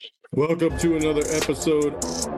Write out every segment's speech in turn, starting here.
Welcome to another episode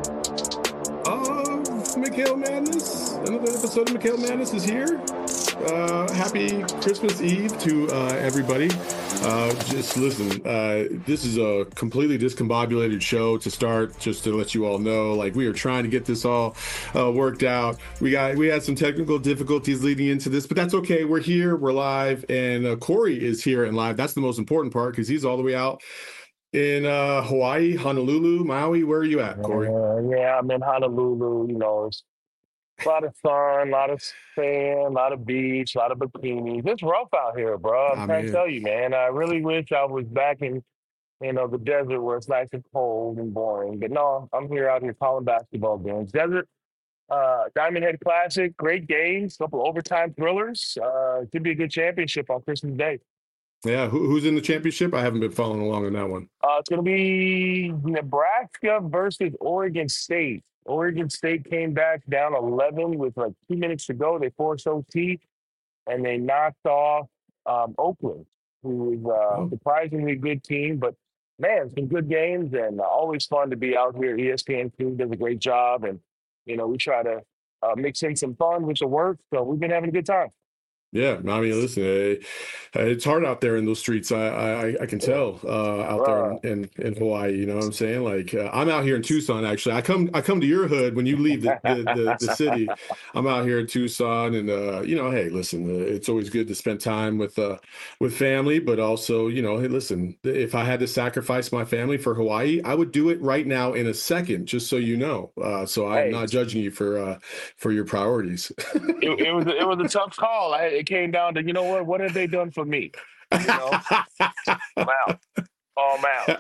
of McHale Madness. Another episode of McHale Madness is here. Happy Christmas Eve to everybody. Just listen, this is a completely discombobulated show to start, just to let you all know, like, we are trying to get this all worked out. We had some technical difficulties leading into this, but that's okay. We're here, we're live, and Corey is here and live. That's the most important part, because he's all the way out in Hawaii, Honolulu, Maui. Where are you at, Corey? Yeah, I'm in Honolulu. It's a lot of sun, a lot of sand, a lot of beach, a lot of bikinis. It's rough out here, bro. I'm I trying to mean, tell you, man. I really wish I was back in, the desert where it's nice and cold and boring. But no, I'm here out here calling basketball games. Desert, Diamond Head Classic, great games, couple overtime thrillers. Could be a good championship on Christmas Day. yeah, who's in the championship? I haven't been following along on that one. It's going to be Nebraska versus Oregon State. Oregon State came back down 11 with like 2 minutes to go. They forced OT and they knocked off Oakland, who was Oh. surprisingly good team. But man, some good games and always fun to be out here. ESPN team does a great job, and we try to mix in some fun with the work. So we've been having a good time. Yeah, I mean, listen, it's hard out there in those streets. I can Yeah. tell out there Uh, in Hawaii. You know what I'm saying? Like, I'm out here in Tucson. Actually, I come to your hood when you leave the city. I'm out here in Tucson, and hey, listen, it's always good to spend time with family, but also, hey, listen, if I had to sacrifice my family for Hawaii, I would do it right now in a second, just so you know. So I'm hey, not judging you for your priorities. it was a tough call. It came down to what have they done for me? You know, I'm out. I'm out.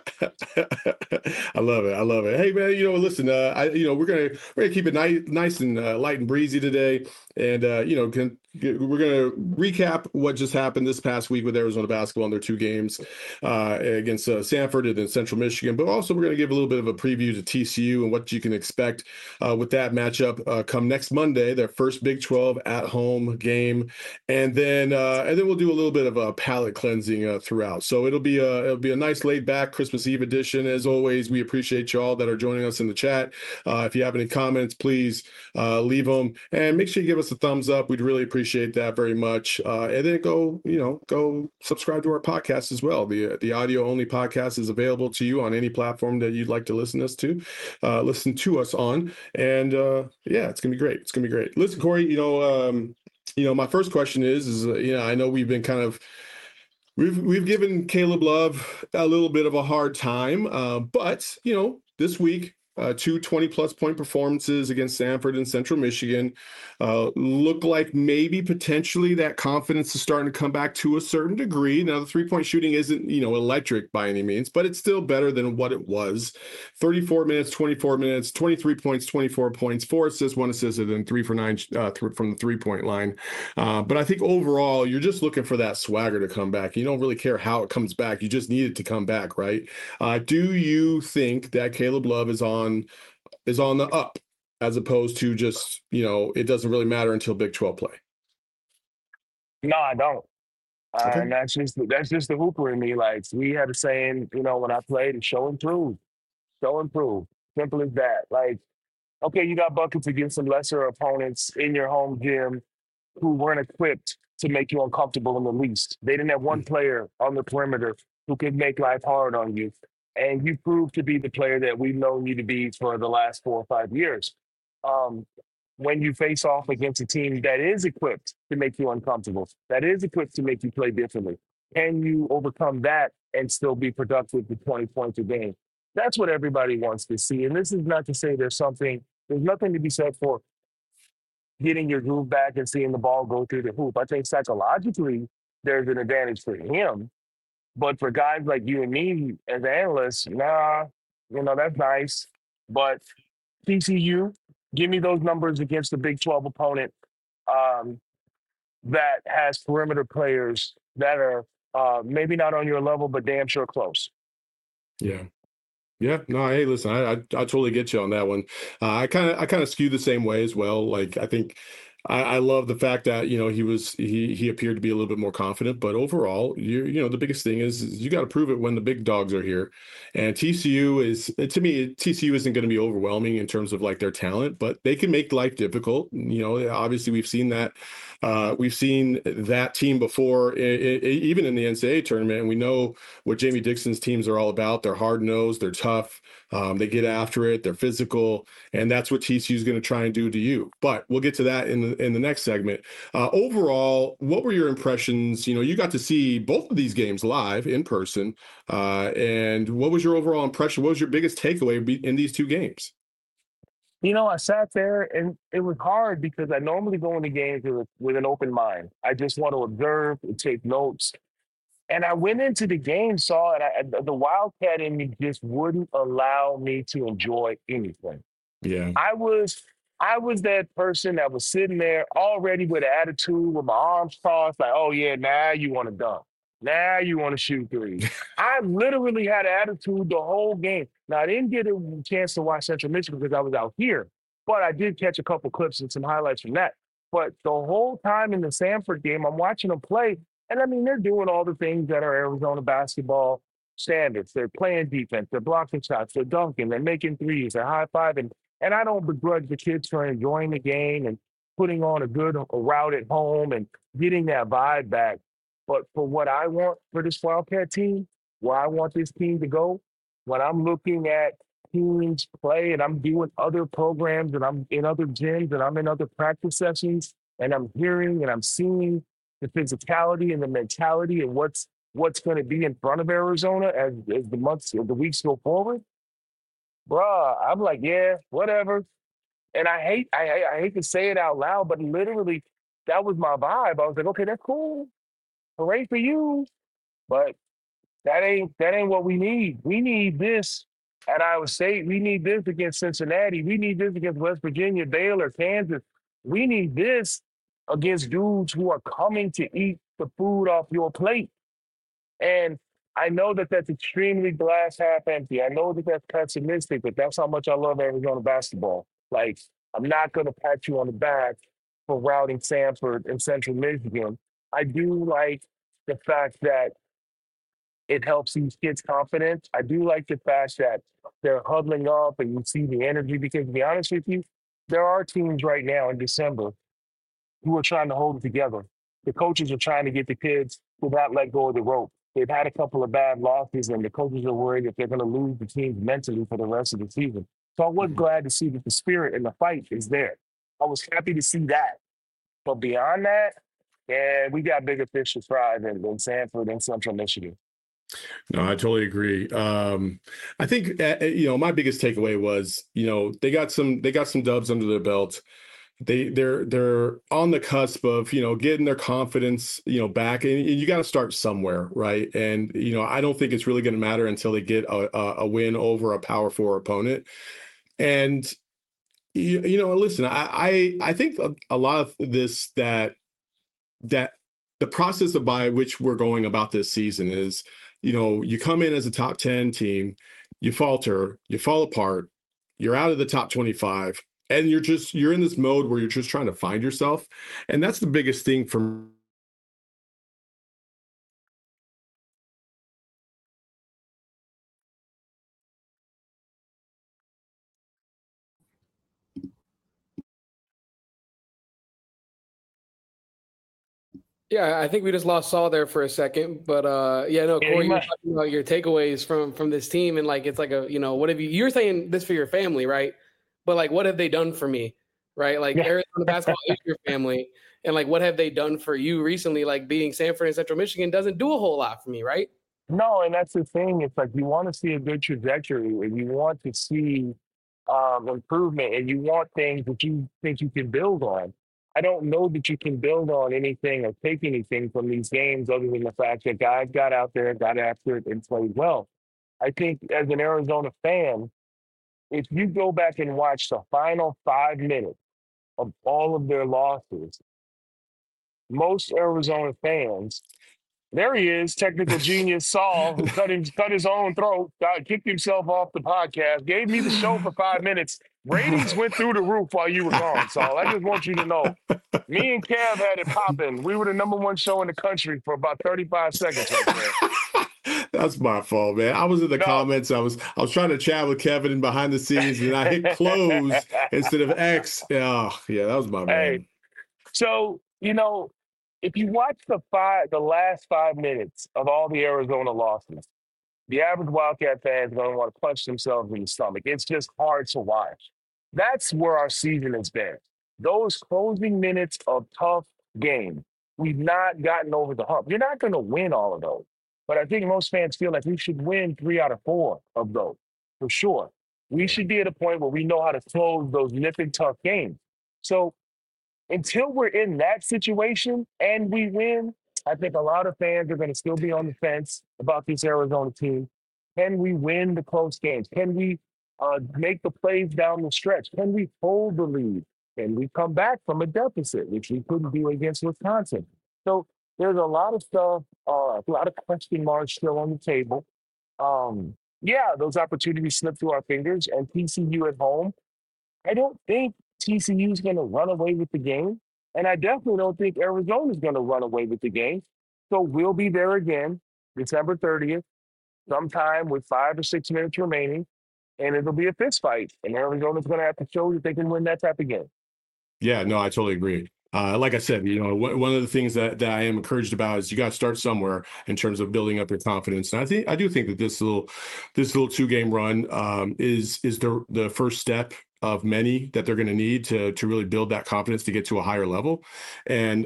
I love it. I love it. Hey man, listen, we're gonna keep it nice and light and breezy today, and we're gonna recap what just happened this past week with Arizona basketball in their two games against Sanford and then Central Michigan, but also we're gonna give a little bit of a preview to TCU and what you can expect with that matchup come next Monday, their first Big 12 at home game, and then we'll do a little bit of a palate cleansing throughout. So it'll be a nice laid back Christmas Eve edition. As always, we appreciate y'all that are joining us in the chat. If you have any comments, please leave them and make sure you give us a thumbs up. We'd really appreciate that very much. And then go subscribe to our podcast as well. The audio only podcast is available to you on any platform that you'd like to listen to us on. And yeah, it's gonna be great. It's gonna be great. Listen, Corey, my first question is I know we've been kind of we've given Caleb Love a little bit of a hard time, but this week, two 20-plus point performances against Sanford and Central Michigan look like maybe potentially that confidence is starting to come back to a certain degree. Now, the three-point shooting isn't, electric by any means, but it's still better than what it was. 34 minutes, 24 minutes, 23 points, 24 points, 4 assists, 1 assist, and then 3 for 9 from the three-point line. But I think overall, you're just looking for that swagger to come back. You don't really care how it comes back. You just need it to come back, right? Do you think that Caleb Love is on the up, as opposed to just, it doesn't really matter until Big 12 play? No, I don't. Okay. And that's just the hooper in me. Like we had a saying, when I played, show and prove, show and prove. Simple as that. Like, okay, you got buckets against some lesser opponents in your home gym who weren't equipped to make you uncomfortable in the least. They didn't have one player on the perimeter who could make life hard on you. And you proved to be the player that we've known you to be for the last 4 or 5 years. Um, when you face off against a team that is equipped to make you uncomfortable, that is equipped to make you play differently, can you overcome that and still be productive with 20 points a game? That's what everybody wants to see. And this is not to say there's nothing to be said for getting your groove back and seeing the ball go through the hoop. I think psychologically, there's an advantage for him. But for guys like you and me as analysts, nah, that's nice. But TCU, give me those numbers against the Big 12 opponent um, that has perimeter players that are maybe not on your level, but damn sure close. Yeah. Yeah, no, hey, listen, I totally get you on that one. I kind of skew the same way as well. Like, I think I love the fact that he appeared to be a little bit more confident, but overall, the biggest thing is you got to prove it when the big dogs are here, and TCU is to me TCU isn't going to be overwhelming in terms of like their talent, but they can make life difficult. Obviously we've seen that team before, even in the NCAA tournament, and we know what Jamie Dixon's teams are all about. They're hard nosed, they're tough, they get after it, they're physical, and that's what TCU is going to try and do to you. But we'll get to that in the next segment. Overall, what were your impressions? You got to see both of these games live in person, and what was your overall impression? What was your biggest takeaway in these two games? I sat there and it was hard because I normally go into games with an open mind. I just want to observe and take notes. And I went into the game, saw it. The Wildcat in me just wouldn't allow me to enjoy anything. Yeah. I was I was that person that was sitting there already with an attitude, with my arms crossed, like, oh yeah, now you want to dunk. Now you want to shoot threes. I literally had an attitude the whole game. Now I didn't get a chance to watch Central Michigan because I was out here, but I did catch a couple clips and some highlights from that. But the whole time in the Sanford game, I'm watching them play, and I mean they're doing all the things that are Arizona basketball standards. They're playing defense, they're blocking shots, they're dunking, they're making threes, they're high fiving. And I don't begrudge the kids for enjoying the game and putting on a good route at home and getting that vibe back. But for what I want for this Wildcat team, where I want this team to go, when I'm looking at teams play and I'm doing other programs and I'm in other gyms and I'm in other practice sessions and I'm hearing and I'm seeing the physicality and the mentality and what's going to be in front of Arizona as the months or the weeks go forward, bruh, I'm like, yeah, whatever. And I hate to say it out loud, but literally that was my vibe. I was like, okay, that's cool. Hooray for you. But that ain't what we need. We need this at Iowa State. We need this against Cincinnati. We need this against West Virginia, Baylor, Kansas. We need this against dudes who are coming to eat the food off your plate. And I know that that's extremely glass half empty. I know that that's pessimistic, but that's how much I love Arizona basketball. Like, I'm not going to pat you on the back for routing Sanford and Central Michigan. I do like the fact that it helps these kids' confidence. I do like the fact that they're huddling up and you see the energy because, to be honest with you, there are teams right now in December who are trying to hold it together. The coaches are trying to get the kids to not let go of the rope. They've had a couple of bad losses, and the coaches are worried that they're going to lose the teams mentally for the rest of the season. So I was glad to see that the spirit and the fight is there. I was happy to see that. But beyond that, yeah, we got bigger fish to fry than Sanford and Central Michigan. No, I totally agree. I think my biggest takeaway was they got some dubs under their belt. They're on the cusp of getting their confidence back, and you got to start somewhere, right? And I don't think it's really going to matter until they get a win over a Power Four opponent. And listen, I think a lot of this that the process of by which we're going about this season is, you come in as a top 10 team, you falter, you fall apart, you're out of the top 25, and you're in this mode where you're just trying to find yourself. And that's the biggest thing for. Yeah, I think we just lost Saul there for a second, but yeah, no, Yeah, you Corey, you were might. talking about your takeaways from this team, and like it's like what have you're saying this for your family, right? But like, what have they done for me, right? Like Yeah. Arizona basketball is your family, and like, what have they done for you recently? Like being Sanford and Central Michigan doesn't do a whole lot for me, right? No, and that's the thing. It's like you want to see a good trajectory and you want to see improvement and you want things that you think you can build on. I don't know that you can build on anything or take anything from these games other than the fact that guys got out there, got after it, and played well. I think as an Arizona fan, if you go back and watch the final 5 minutes of all of their losses, most Arizona fans there he is, technical genius Saul, who cut his own throat, kicked himself off the podcast, gave me the show for 5 minutes, Ratings went through the roof while you were gone, Saul. I just want you to know. Me and Kev had it popping. We were the number one show in the country for about 35 seconds right there. That's my fault, man. I was in the No. comments. I was trying to chat with Kevin in behind the scenes, and I hit close instead of X. Yeah, yeah, that was my Hey, bad. so, if you watch the last 5 minutes of all the Arizona losses, the average Wildcat fan is going to want to punch themselves in the stomach. It's just hard to watch. That's where our season has been. Those closing minutes of tough games. We've not gotten over the hump. You're not going to win all of those. But I think most fans feel like we should win 3 out of 4 of those, for sure. We should be at a point where we know how to close those nip and tough games. So until we're in that situation and we win, I think a lot of fans are going to still be on the fence about this Arizona team. Can we win the close games? Can we make the plays down the stretch? Can we hold the lead? Can we come back from a deficit, which we couldn't do against Wisconsin? So there's a lot of stuff, a lot of question marks still on the table. Yeah, those opportunities slip through our fingers, and TCU at home. I don't think TCU is going to run away with the game. And I definitely don't think Arizona is going to run away with the game. So we'll be there again, December 30th, sometime with 5 or 6 minutes remaining. And it'll be a fist fight. And Arizona's going to have to show that they can win that type of game. Yeah, no, I totally agree. Like I said, one of the things that I am encouraged about is you got to start somewhere in terms of building up your confidence. And I do think that this little 2-game run is the first step of many that they're going to need to really build that confidence to get to a higher level. And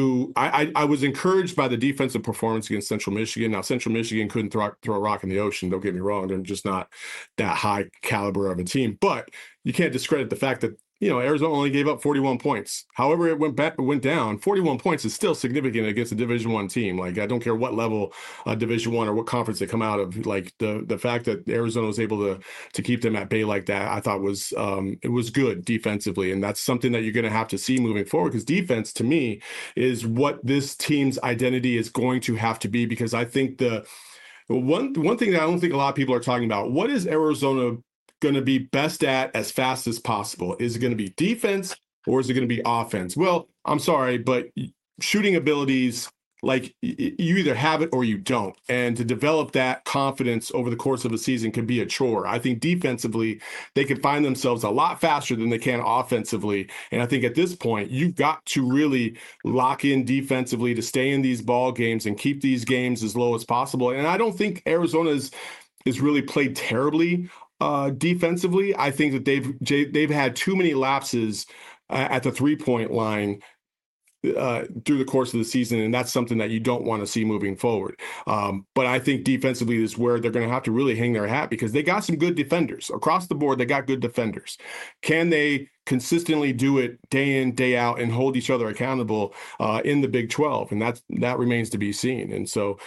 I was encouraged by the defensive performance against Central Michigan. Now, Central Michigan couldn't throw a rock in the ocean. Don't get me wrong. They're just not that high caliber of a team. But you can't discredit the fact that Arizona only gave up 41 points. However, it went down. 41 points is still significant against a Division I team. Like, I don't care what level Division I or what conference they come out of. Like, the fact that Arizona was able to keep them at bay like that, I thought was it was good defensively, and that's something that you're going to have to see moving forward, because defense, to me, is what this team's identity is going to have to be. Because I think the one thing that I don't think a lot of people are talking about, what is Arizona going to be best at as fast as possible? Is it going to be defense or is it going to be offense? Well, I'm sorry, but shooting abilities, like, you either have it or you don't. And to develop that confidence over the course of a season can be a chore. I think defensively, they can find themselves a lot faster than they can offensively. And I think at this point, you've got to really lock in defensively to stay in these ball games and keep these games as low as possible. And I don't think Arizona is really played terribly defensively. I think that they've had too many lapses at the 3-point line through the course of the season, and that's something that you don't want to see moving forward. But I think defensively is where they're going to have to really hang their hat, because they got some good defenders across the board. They got good defenders. Can they consistently do it day in, day out, and hold each other accountable in the Big 12? And that remains to be seen. And so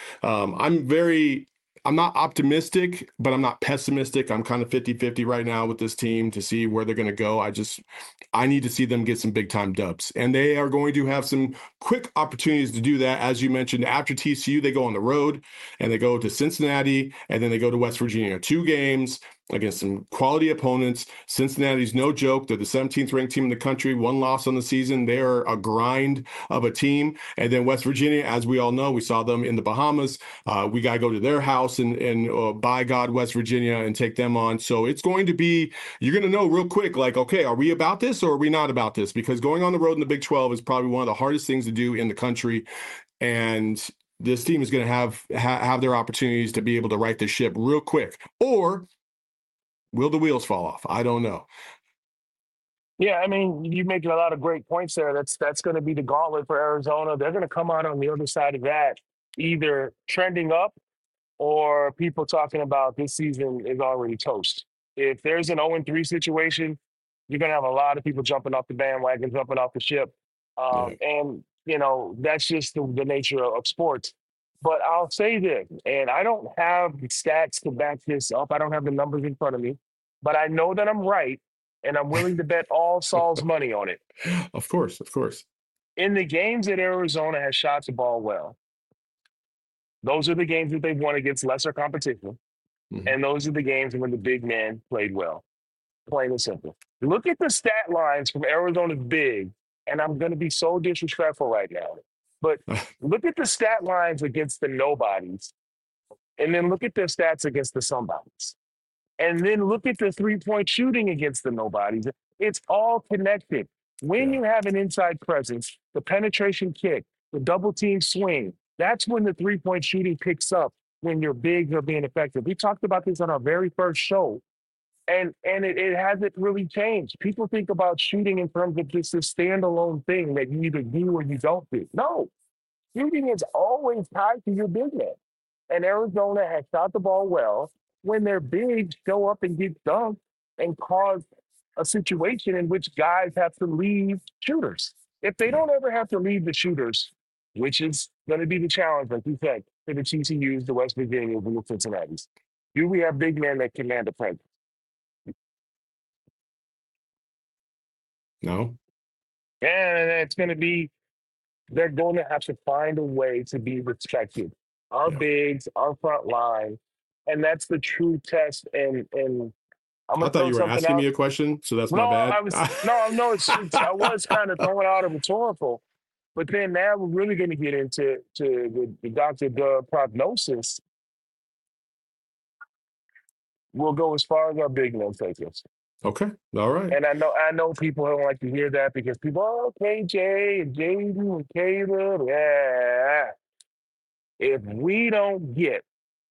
I'm not optimistic, but I'm not pessimistic. I'm kind of 50-50 right now with this team to see where they're going to go. I need to see them get some big time dubs, and they are going to have some quick opportunities to do that. As you mentioned, after TCU, they go on the road and they go to Cincinnati, and then they go to West Virginia. 2 games against some quality opponents. Cincinnati's no joke. They're the 17th ranked team in the country, 1 loss on the season. They are a grind of a team. And then West Virginia, as we all know, we saw them in the Bahamas. We got to go to their house and by God, West Virginia, and take them on. So it's going to be, you're going to know real quick, like, okay, are we about this or are we not about this? Because going on the road in the Big 12 is probably one of the hardest things to do in the country. And this team is going to have their opportunities to be able to right the ship real quick. Or will the wheels fall off? I don't know. Yeah, I mean, you're making a lot of great points there. That's going to be the gauntlet for Arizona. They're going to come out on the other side of that, either trending up or people talking about this season is already toast. If there's an 0-3 situation, you're going to have a lot of people jumping off the bandwagon, jumping off the ship. And, that's just the nature of sports. But I'll say this, and I don't have the stats to back this up. I don't have the numbers in front of me, but I know that I'm right, and I'm willing to bet all Saul's money on it. Of course. In the games that Arizona has shot the ball well, those are the games that they've won against lesser competition, Mhm. and those are the games when the big man played well. Plain and simple. Look at the stat lines from Arizona's big, and I'm going to be so disrespectful right now, but look at the stat lines against the nobodies, and then look at their stats against the somebodies. And then look at the three-point shooting against the nobodies. It's all connected. When you have an inside presence, the penetration kick, the double team swing, that's when the three-point shooting picks up when your bigs are being effective. We talked about this on our very first show, and it hasn't really changed. People think about shooting in terms of just a standalone thing that you either do or you don't do. No, shooting is always tied to your big man. And Arizona has shot the ball well when their bigs show up and get dunked and cause a situation in which guys have to leave shooters. If they don't ever have to leave the shooters, which is going to be the challenge, like you said, for the TCUs, the West Virginias, and the Cincinnati's, do we have big men that command the presence? No. And it's going to be, they're going to have to find a way to be respected. Our bigs, our front line, and that's the true test. And I'm I gonna thought you were asking me a question, so that's my bad. I was kind of throwing out a rhetorical, but then now we're really going to get into the Dr. Dub prognosis. We'll go as far as our big men take us. Okay. All right. And I know people don't like to hear that because people, oh, KJ and JD and Caleb, yeah. If we don't get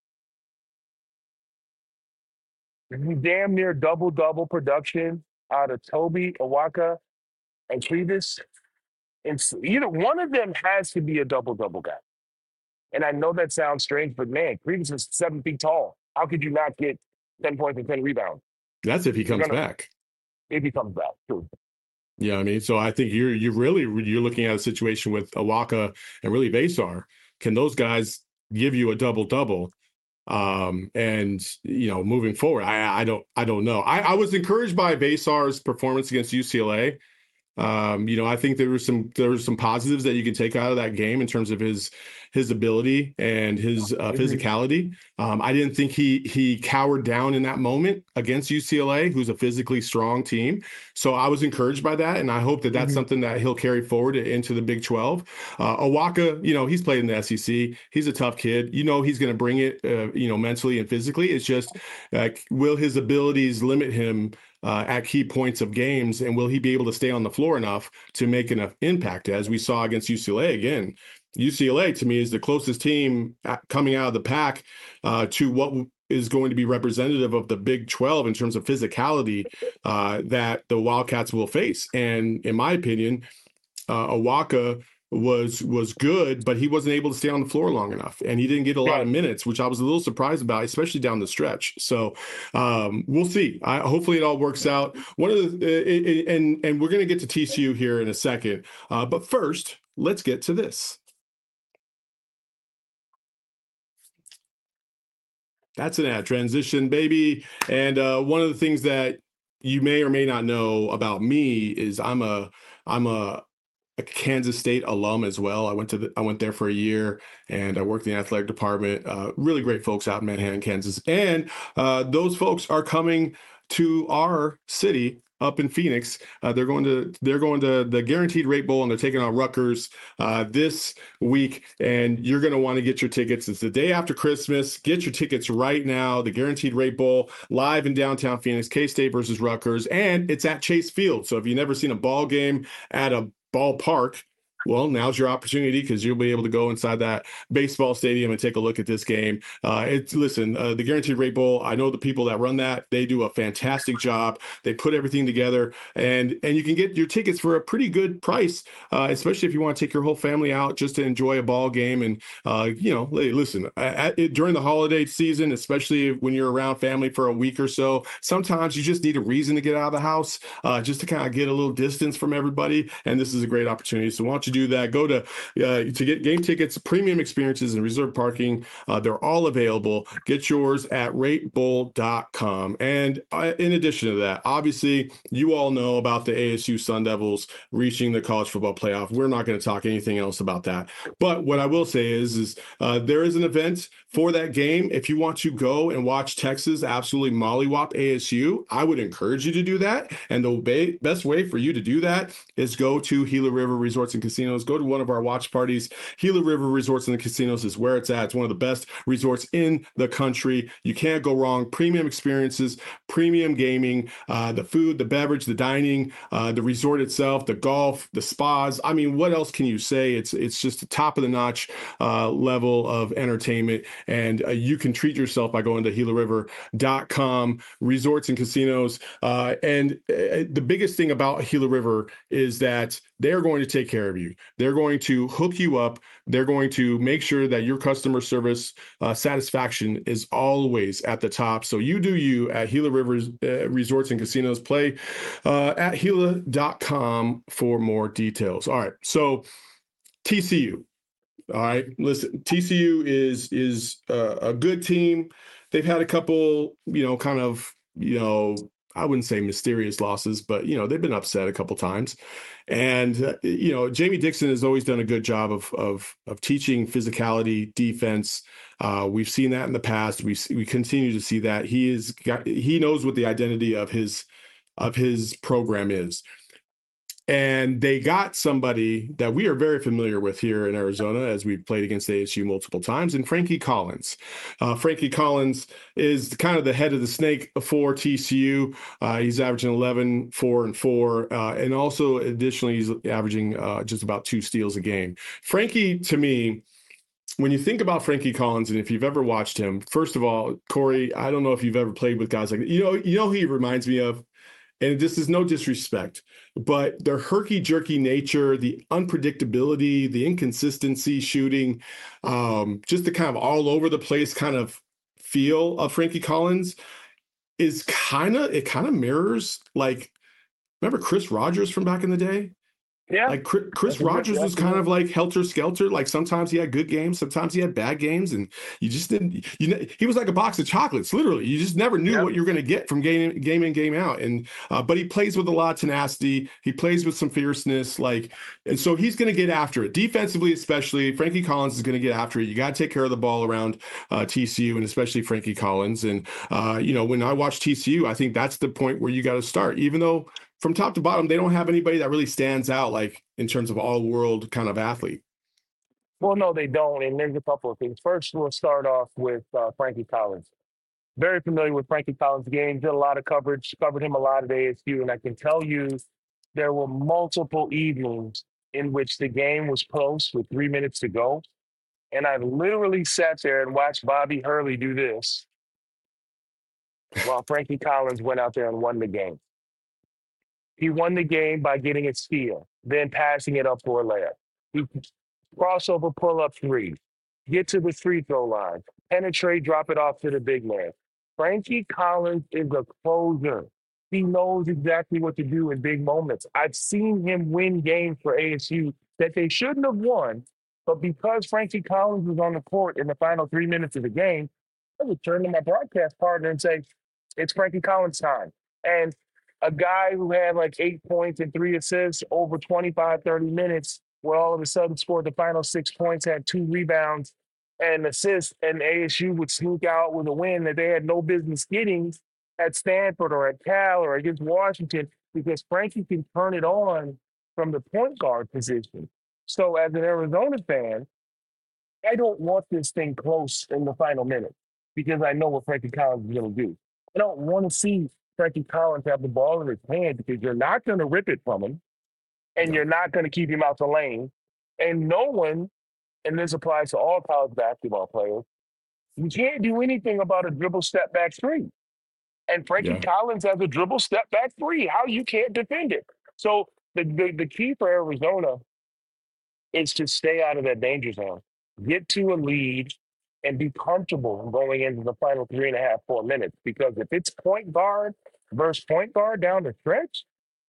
damn near double production out of Toby, Awaka, and Clevis, and either one of them has to be a double guy. And I know that sounds strange, but man, Clevis is 7 feet tall. How could you not get 10 points and 10 rebounds? That's if he comes back. If he comes back, true. Yeah, I mean, so I think you're looking at a situation with Awaka and really Vesar. Can those guys give you a double? And moving forward, I don't know. I was encouraged by Vesar's performance against UCLA. I think there were some positives that you can take out of that game in terms of his ability and his physicality. I didn't think he cowered down in that moment against UCLA, who's a physically strong team. So I was encouraged by that, and I hope that that's something that he'll carry forward into the Big 12. Awaka, he's played in the SEC. He's a tough kid. He's going to bring it, mentally and physically. It's just, will his abilities limit him at key points of games, and will he be able to stay on the floor enough to make enough impact, as we saw against UCLA? Again, UCLA to me is the closest team coming out of the pack to what is going to be representative of the Big 12 in terms of physicality that the Wildcats will face. And in my opinion, Awaka was good, but he wasn't able to stay on the floor long enough, and he didn't get a lot of minutes, which I was a little surprised about, especially down the stretch. So we'll see. Hopefully it all works out. One of the and we're going to get to TCU here in a second, but first let's get to this. That's an ad transition, baby. And one of the things that you may or may not know about me is I'm a Kansas State alum as well. I went there for a year, and I worked in the athletic department. Really great folks out in Manhattan, Kansas, and those folks are coming to our city up in Phoenix. They're going to the Guaranteed Rate Bowl, and they're taking on Rutgers this week. And you're going to want to get your tickets. It's the day after Christmas. Get your tickets right now. The Guaranteed Rate Bowl live in downtown Phoenix. K-State versus Rutgers, and it's at Chase Field. So if you've never seen a ball game at a ballpark, well, now's your opportunity, because you'll be able to go inside that baseball stadium and take a look at this game. The Guaranteed Rate Bowl, I know the people that run that. They do a fantastic job. They put everything together, and you can get your tickets for a pretty good price, especially if you want to take your whole family out just to enjoy a ball game. And, listen, during the holiday season, especially when you're around family for a week or so, sometimes you just need a reason to get out of the house, just to kind of get a little distance from everybody. And this is a great opportunity. So why don't you do that? Go to get game tickets, premium experiences, and reserved parking. They're all available. Get yours at ratebowl.com. And in addition to that, obviously, you all know about the ASU Sun Devils reaching the college football playoff. We're not going to talk anything else about that. But what I will say is there is an event for that game, if you want to go and watch Texas absolutely mollywop ASU, I would encourage you to do that. And the best way for you to do that is go to Gila River Resorts and Casinos. Go to one of our watch parties. Gila River Resorts and Casinos is where it's at. It's one of the best resorts in the country. You can't go wrong. Premium experiences, premium gaming, the food, the beverage, the dining, the resort itself, the golf, the spas. I mean, what else can you say? It's just the top of the notch level of entertainment. And you can treat yourself by going to GilaRiver.com, resorts and casinos. The biggest thing about Gila River is that they're going to take care of you. They're going to hook you up. They're going to make sure that your customer service satisfaction is always at the top. So you do you at Gila River Resorts and Casinos. Play at Gila.com for more details. All right. So TCU. All right, listen, TCU is a good team. They've had a couple, kind of, I wouldn't say mysterious losses, but, they've been upset a couple times. And, Jamie Dixon has always done a good job of teaching physicality, defense. We've seen that in the past. We continue to see that. He knows what the identity of his program is. And they got somebody that we are very familiar with here in Arizona, as we've played against ASU multiple times, and Frankie Collins. Frankie Collins is kind of the head of the snake for TCU. He's averaging 11, 4, and 4. And also, additionally, he's averaging just about 2 steals a game. Frankie, to me, when you think about Frankie Collins, and if you've ever watched him, first of all, Corey, I don't know if you've ever played with guys like that. You know who he reminds me of? And this is no disrespect, but their herky-jerky nature, the unpredictability, the inconsistency shooting, just the kind of all over the place kind of feel of Frankie Collins is kind of mirrors, like, remember Chris Rogers from back in the day? Yeah. Like Chris Rogers was kind of like helter-skelter. Like sometimes he had good games, sometimes he had bad games, and you just didn't. He was like a box of chocolates, literally. You just never knew what you were going to get from game in, game out. And but he plays with a lot of tenacity. He plays with some fierceness, and so he's going to get after it defensively, especially. Frankie Collins is going to get after it. You got to take care of the ball around TCU, and especially Frankie Collins. And when I watch TCU, I think that's the point where you got to start, even though from top to bottom, they don't have anybody that really stands out, like in terms of all-world kind of athlete. Well, no, they don't. And there's a couple of things. First, we'll start off with Frankie Collins. Very familiar with Frankie Collins' game. Did a lot of coverage, covered him a lot at ASU. And I can tell you there were multiple evenings in which the game was close with 3 minutes to go. And I literally sat there and watched Bobby Hurley do this while Frankie Collins went out there and won the game. He won the game by getting a steal, then passing it up for a layup. He crossover pull-up 3, get to the free throw line, penetrate, drop it off to the big man. Frankie Collins is a closer. He knows exactly what to do in big moments. I've seen him win games for ASU that they shouldn't have won, but because Frankie Collins was on the court in the final 3 minutes of the game, I would turn to my broadcast partner and say, it's Frankie Collins time. And a guy who had like 8 points and 3 assists over 25, 30 minutes, where all of a sudden scored the final 6 points, had 2 rebounds and assists, and ASU would sneak out with a win that they had no business getting at Stanford or at Cal or against Washington, because Frankie can turn it on from the point guard position. So as an Arizona fan, I don't want this thing close in the final minute because I know what Frankie Collins is going to do. I don't want to see Frankie Collins have the ball in his hand because you're not going to rip it from him and you're not going to keep him out the lane. And no one, and this applies to all college basketball players, you can't do anything about a dribble step back 3. And Frankie Collins has a dribble step back 3. How you can't defend it? So the key for Arizona is to stay out of that danger zone, get to a lead, and be comfortable going into the final 3.5, 4 minutes. Because if it's point guard versus point guard down the stretch,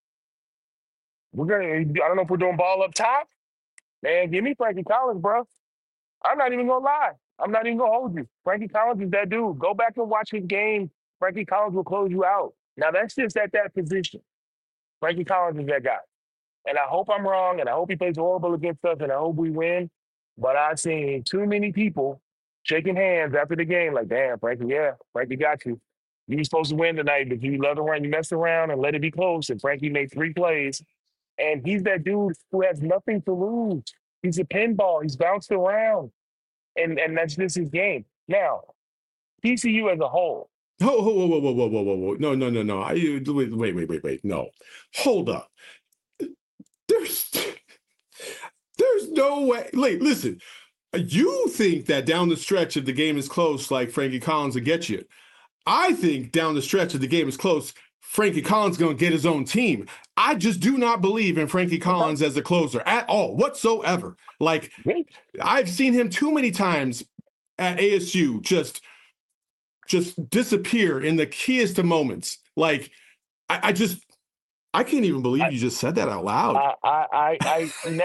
I don't know if we're doing ball up top. Man, give me Frankie Collins, bro. I'm not even gonna lie. I'm not even gonna hold you. Frankie Collins is that dude. Go back and watch his game. Frankie Collins will close you out. Now that's just at that position. Frankie Collins is that guy. And I hope I'm wrong, and I hope he plays horrible against us, and I hope we win. But I've seen too many people shaking hands after the game, like, damn, Frankie, yeah, Frankie got you. You were supposed to win tonight, but you let around, you messed around and let it be close. And Frankie made 3 plays. And he's that dude who has nothing to lose. He's a pinball. He's bounced around. And that's just his game. Now, TCU as a whole. Oh, whoa, whoa, whoa, whoa, whoa, whoa, whoa. No, no, no, no. Wait. No. Hold up. There's no way. Listen. You think that down the stretch, if the game is close, like Frankie Collins will get you. I think down the stretch, if the game is close, Frankie Collins is going to get his own team. I just do not believe in Frankie Collins as a closer at all, whatsoever. Like, I've seen him too many times at ASU just disappear in the keyest of moments. Like, I can't even believe you just said that out loud. I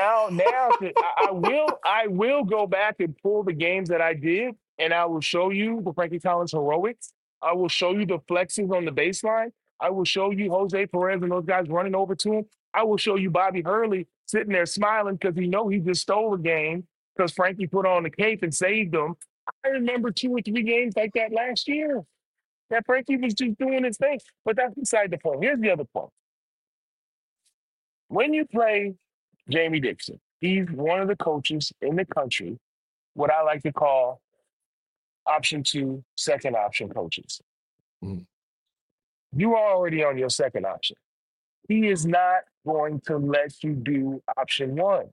will go back and pull the games that I did, and I will show you the Frankie Collins heroics. I will show you the flexes on the baseline. I will show you Jose Perez and those guys running over to him. I will show you Bobby Hurley sitting there smiling because he just stole a game because Frankie put on the cape and saved them. I remember 2 or 3 games like that last year that Frankie was just doing his thing. But that's beside the point. Here's the other point. When you play Jamie Dixon, he's one of the coaches in the country, what I like to call option 2, second option coaches. Mm. You are already on your second option. He is not going to let you do option 1.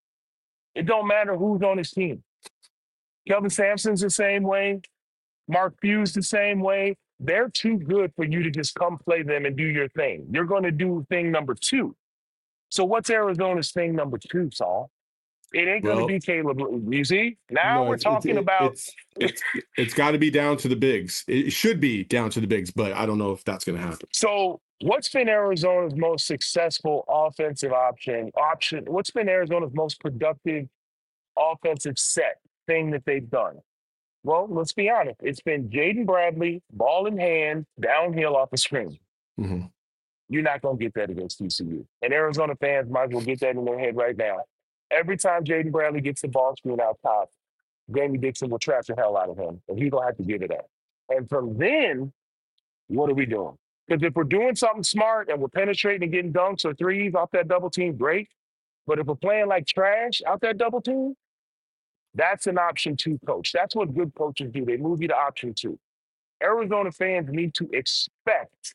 It don't matter who's on his team. Kelvin Sampson's the same way. Mark Few's the same way. They're too good for you to just come play them and do your thing. You're going to do thing number 2. So what's Arizona's thing number 2, Saul? It ain't going to be Caleb. You see? Now we're talking about... It's got to be down to the bigs. It should be down to the bigs, but I don't know if that's going to happen. So what's been Arizona's most successful offensive option? What's been Arizona's most productive offensive set thing that they've done? Well, let's be honest. It's been Jaden Bradley, ball in hand, downhill off the screen. Mm-hmm. You're not going to get that against TCU. And Arizona fans might as well get that in their head right now. Every time Jaden Bradley gets the ball screen out top, Jamie Dixon will trap the hell out of him, and he's going to have to give it up. And from then, what are we doing? Because if we're doing something smart and we're penetrating and getting dunks or threes off that double team, great. But if we're playing like trash out that double team, that's an option 2 coach. That's what good coaches do. They move you to option 2. Arizona fans need to expect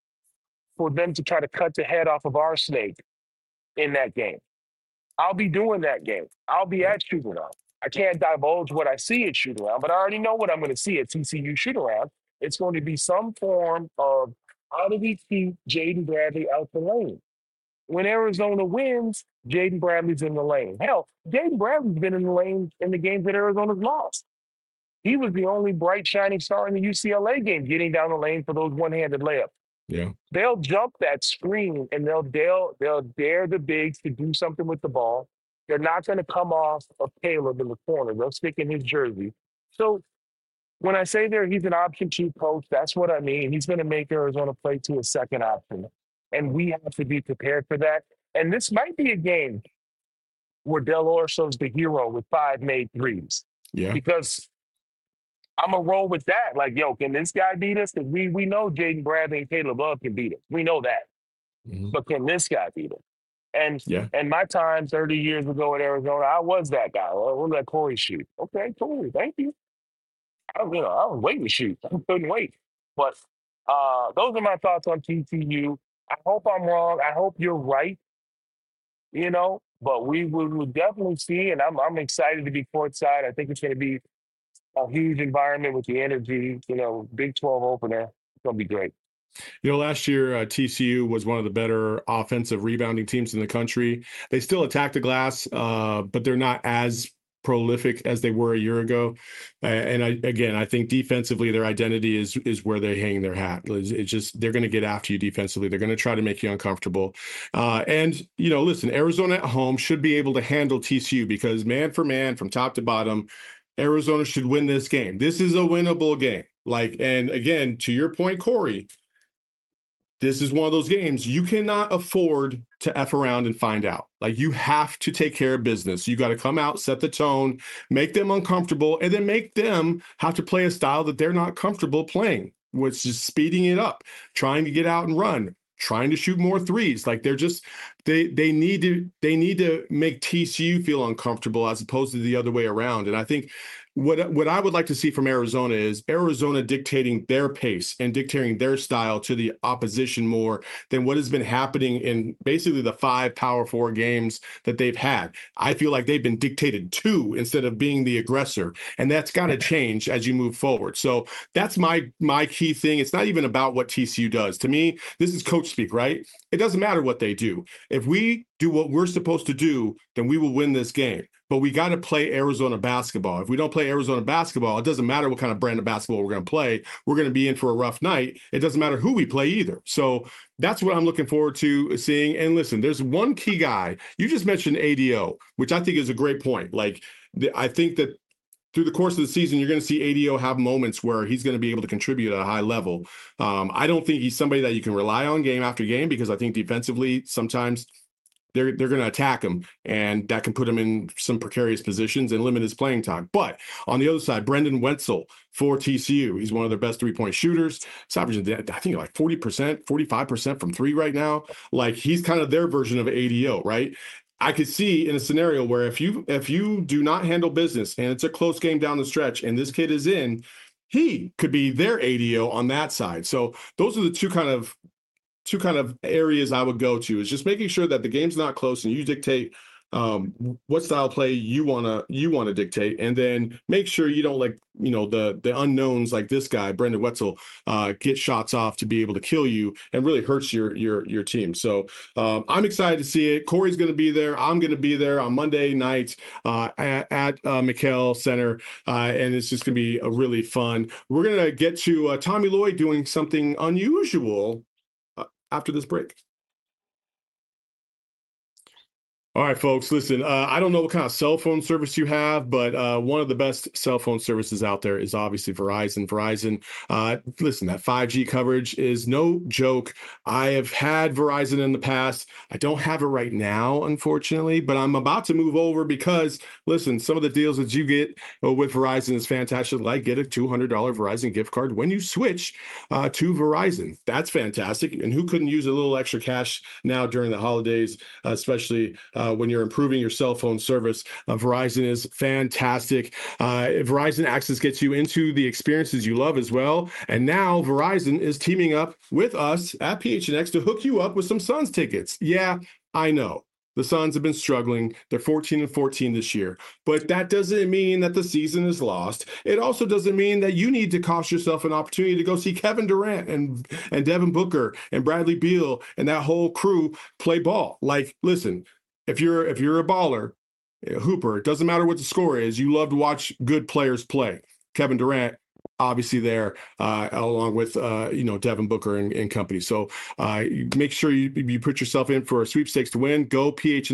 for them to try to cut the head off of our snake in that game. I'll be doing that game. I'll be at shoot-around. I can't divulge what I see at shoot-around, but I already know what I'm going to see at TCU shoot-around. It's going to be some form of how do we keep Jaden Bradley out the lane? When Arizona wins, Jaden Bradley's in the lane. Hell, Jaden Bradley's been in the lane in the games that Arizona's lost. He was the only bright, shining star in the UCLA game, getting down the lane for those one-handed layups. Yeah. They'll jump that screen and they'll dare the bigs to do something with the ball. They're not going to come off of Caleb in the corner. They'll stick in his jersey. So when I say he's an option 2 coach, that's what I mean. He's going to make Arizona play to a second option. And we have to be prepared for that. And this might be a game where Del Orso's the hero with 5 made threes. Yeah. Because I'm going to roll with that. Like, yo, can this guy beat us? Because we know Jaden Bradley and Caleb Love can beat us. We know that. Mm-hmm. But can this guy beat us? And my time 30 years ago at Arizona, I was that guy. We'll let Corey shoot. Okay, cool. Thank you. I was waiting to shoot. I couldn't wait. But those are my thoughts on TCU. I hope I'm wrong. I hope you're right. But we will definitely see, and I'm excited to be courtside. I think it's going to be a huge environment with the energy, Big 12 opener. It's going to be great. Last year, TCU was one of the better offensive rebounding teams in the country. They still attack the glass, but they're not as prolific as they were a year ago. I think defensively, their identity is where they hang their hat. It's just they're going to get after you defensively. They're going to try to make you uncomfortable. Listen, Arizona at home should be able to handle TCU because man for man, from top to bottom, Arizona should win this game. This is a winnable game. And again, to your point, Corey, this is one of those games you cannot afford to F around and find out. Like, you have to take care of business. You got to come out, set the tone, make them uncomfortable, and then make them have to play a style that they're not comfortable playing, which is speeding it up, trying to get out and run, trying to shoot more threes. Like, they're just they need to make TCU feel uncomfortable as opposed to the other way around. And I think what I would like to see from Arizona is Arizona dictating their pace and dictating their style to the opposition more than what has been happening in basically the 5 Power 4 games that they've had. I feel like they've been dictated to instead of being the aggressor, and that's got to change as you move forward. So that's my key thing. It's not even about what TCU does. To me, this is coach speak, right? It doesn't matter what they do. If we do what we're supposed to do, then we will win this game. But we got to play Arizona basketball. If we don't play Arizona basketball, it doesn't matter what kind of brand of basketball we're going to play. We're going to be in for a rough night. It doesn't matter who we play either. So that's what I'm looking forward to seeing. And listen, there's one key guy. You just mentioned ADO, which I think is a great point. Like, I think that through the course of the season, you're going to see ADO have moments where he's going to be able to contribute at a high level. I don't think he's somebody that you can rely on game after game, because I think defensively sometimes they're going to attack him, and that can put him in some precarious positions and limit his playing time. But on the other side, Brendan Wenzel for TCU, he's one of their best three-point shooters. He's averaging, I think, like 40%, 45% from three right now. Like, he's kind of their version of ADO, right? I could see in a scenario where if you do not handle business and it's a close game down the stretch and this kid is in, he could be their ADO on that side. So those are the two kind of areas I would go to, is just making sure that the game's not close and you dictate what style play you wanna dictate, and then make sure you don't let the unknowns like this guy Brendan Wenzel get shots off to be able to kill you and really hurts your team. So I'm excited to see it. Corey's going to be there. I'm going to be there on Monday night at McKell Center, and it's just going to be a really fun. We're going to get to Tommy Lloyd doing something unusual after this break. All right, folks, listen, I don't know what kind of cell phone service you have, but one of the best cell phone services out there is obviously Verizon. Listen, that 5G coverage is no joke. I have had Verizon in the past. I don't have it right now, unfortunately, but I'm about to move over because, listen, some of the deals that you get with Verizon is fantastic. Like, get a $200 Verizon gift card when you switch to Verizon. That's fantastic. And who couldn't use a little extra cash now during the holidays, especially when you're improving your cell phone service? Verizon is fantastic. Verizon Access gets you into the experiences you love as well. And now Verizon is teaming up with us at PHNX to hook you up with some Suns tickets. Yeah, I know. The Suns have been struggling. They're 14-14 this year. But that doesn't mean that the season is lost. It also doesn't mean that you need to cost yourself an opportunity to go see Kevin Durant and Devin Booker and Bradley Beal and that whole crew play ball. Like, listen, if you're a baller, a hooper, it doesn't matter what the score is. You love to watch good players play. Kevin Durant, obviously there, along with Devin Booker and company. So make sure you put yourself in for a sweepstakes to win. Go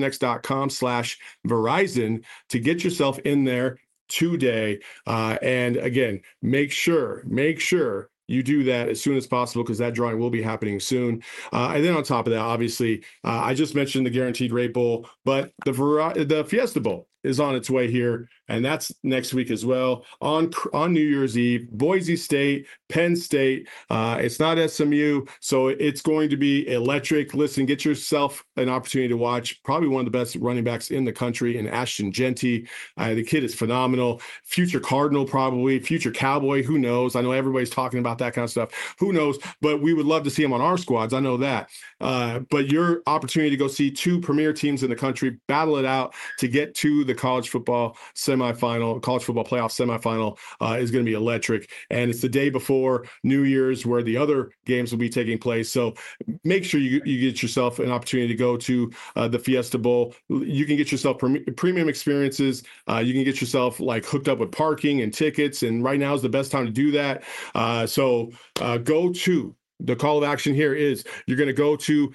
phnx.com/Verizon to get yourself in there today. And again, make sure you do that as soon as possible, because that drawing will be happening soon. And then on top of that, obviously, I just mentioned the Guaranteed Rate Bowl, but the Fiesta Bowl is on its way here, and that's next week as well on New Year's Eve. Boise State, Penn State. It's not SMU, so it's going to be electric. Listen, get yourself an opportunity to watch probably one of the best running backs in the country in Ashton Genty. The kid is phenomenal. Future Cardinal, probably future Cowboy. Who knows? I know everybody's talking about that kind of stuff. Who knows? But we would love to see him on our squads. I know that. But your opportunity to go see two premier teams in the country battle it out to get to the college football playoff semifinal is going to be electric. And it's the day before New Year's where the other games will be taking place. So make sure you get yourself an opportunity to go to the Fiesta Bowl. You can get yourself premium experiences. You can get yourself like hooked up with parking and tickets. And right now is the best time to do that. So go to the call of action here is you're going to go to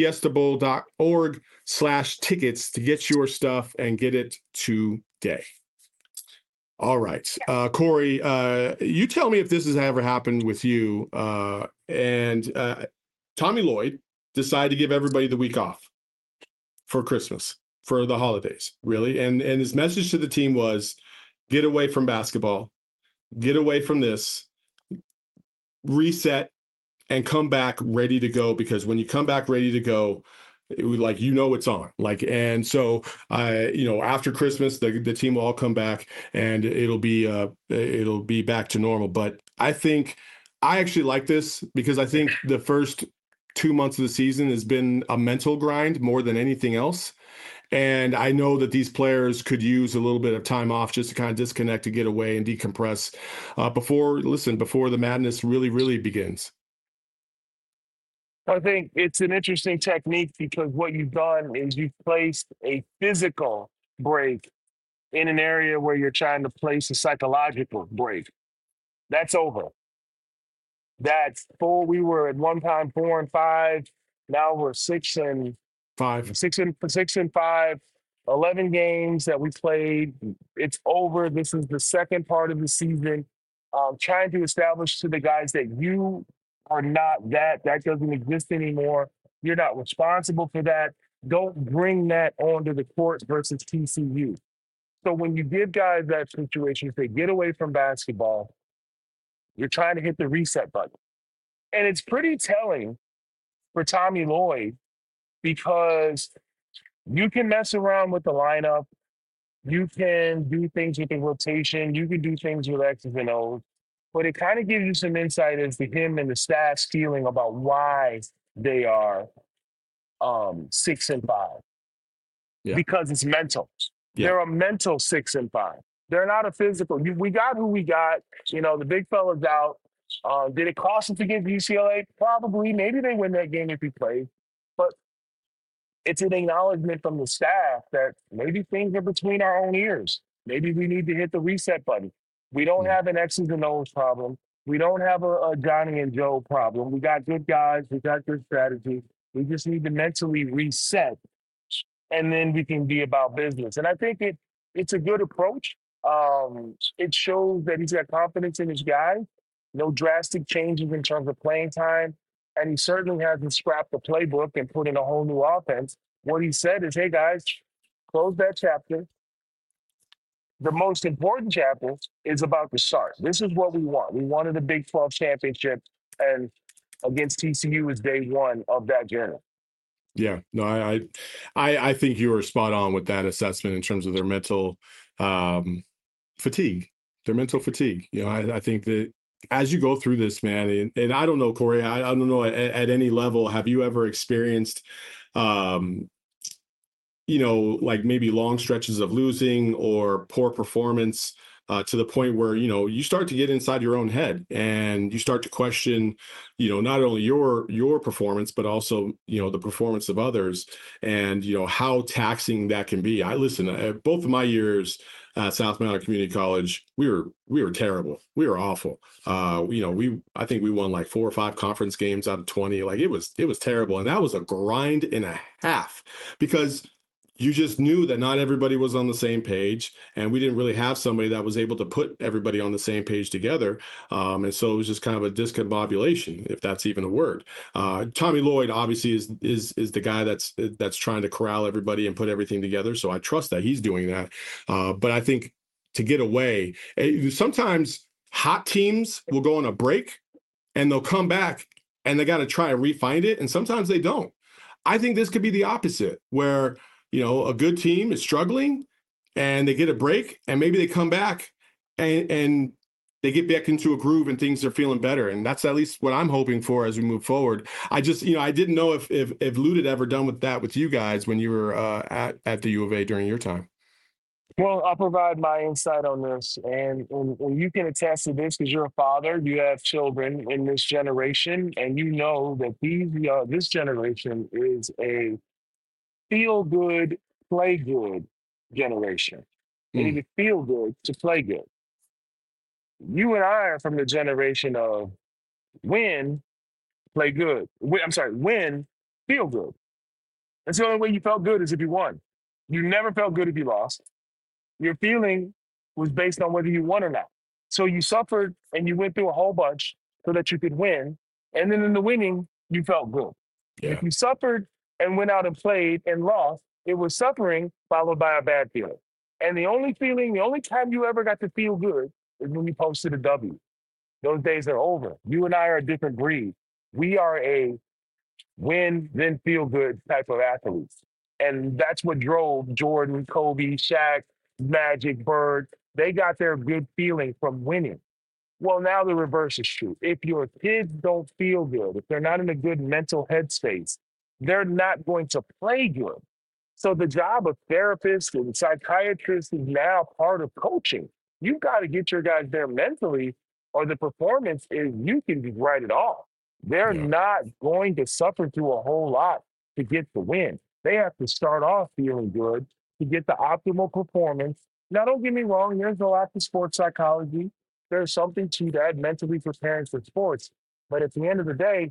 fiestabowl.org/tickets to get your stuff and get it today. All right. Corey, you tell me if this has ever happened with you. And Tommy Lloyd decided to give everybody the week off. for Christmas, for the holidays, really. And his message to the team was, get away from basketball, get away from this, reset, and come back ready to go, because when you come back ready to go, like, it's on. Like, and so after Christmas, the team will all come back, and it'll be back to normal. But I actually like this, because I think the first 2 months of the season has been a mental grind more than anything else. And I know that these players could use a little bit of time off just to kind of disconnect, to get away and decompress before the madness really, really begins. I think it's an interesting technique, because what you've done is you've placed a physical break in an area where you're trying to place a psychological break. That's over. That's full. We were at one time 4-5. Now we're 6-5. 11 games that we played. It's over. This is the second part of the season. Trying to establish to the guys that you are not that doesn't exist anymore. You're not responsible for that. Don't bring that onto the court versus TCU. So when you give guys that situation, say, get away from basketball, you're trying to hit the reset button. And it's pretty telling for Tommy Lloyd, because you can mess around with the lineup. You can do things with the rotation. You can do things with X's and O's. But it kind of gives you some insight as to him and the staff's feeling about why they are 6-5. Yeah. Because it's mental. Yeah. They're a mental 6-5. They're not a physical. We got who we got. The big fella's out. Did it cost us against UCLA? Probably. Maybe they win that game if he plays. But it's an acknowledgement from the staff that maybe things are between our own ears. Maybe we need to hit the reset button. We don't have an X's and O's problem. We don't have a Johnny and Joe problem. We got good guys. We got good strategy. We just need to mentally reset, and then we can be about business. And I think it's a good approach. It shows that he's got confidence in his guys. No drastic changes in terms of playing time. And he certainly hasn't scrapped the playbook and put in a whole new offense. What he said is, hey, guys, close that chapter. The most important chapter is about to start. This is what we want. We wanted a Big 12 championship, and against TCU is day one of that journey. Yeah, no, I think you were spot on with that assessment in terms of their mental fatigue. Their mental fatigue. I think that as you go through this, man, and I don't know, Corey, I don't know at any level, have you ever experienced, like maybe long stretches of losing or poor performance to the point where, you start to get inside your own head and you start to question, not only your performance, but also, the performance of others, and, how taxing that can be. Both of my years at South Mountain Community College, we were terrible. We were awful. I think we won like 4 or 5 conference games out of 20. Like it was terrible. And that was a grind and a half, because you just knew that not everybody was on the same page, and we didn't really have somebody that was able to put everybody on the same page together. And so it was just kind of a discombobulation, if that's even a word. Tommy Lloyd obviously is the guy that's trying to corral everybody and put everything together. So I trust that he's doing that. But I think to get away, sometimes hot teams will go on a break and they'll come back and they got to try and refine it. And sometimes they don't. I think this could be the opposite, where a good team is struggling and they get a break, and maybe they come back and they get back into a groove and things are feeling better. And that's at least what I'm hoping for as we move forward. I just, I didn't know if Lute had ever done with that with you guys when you were at the U of A during your time. Well, I'll provide my insight on this, and you can attest to this because you're a father. You have children in this generation, and you know that this generation is a feel good, play good generation. They need to feel good to play good. You and I are from the generation of win, play good. Win, feel good. That's the only way you felt good is if you won. You never felt good if you lost. Your feeling was based on whether you won or not. So you suffered and you went through a whole bunch so that you could win. And then in the winning, you felt good. Yeah. If you suffered and went out and played and lost, It was suffering followed by a bad feeling. And the only time you ever got to feel good is when you posted a W. Those days are over. You and I are a different breed. We are a win, then feel good type of athletes. And that's what drove Jordan, Kobe, Shaq, Magic, Bird. They got their good feeling from winning. Well, now the reverse is true. If your kids don't feel good, if they're not in a good mental headspace, they're not going to play good. So the job of therapists and psychiatrists is now part of coaching. You've got to get your guys there mentally, or the performance is you can just write it off. They're Yeah. not going to suffer through a whole lot to get the win. They have to start off feeling good to get the optimal performance. Now, don't get me wrong, there's a lot to sports psychology. There's something to that mentally preparing for sports. But at the end of the day,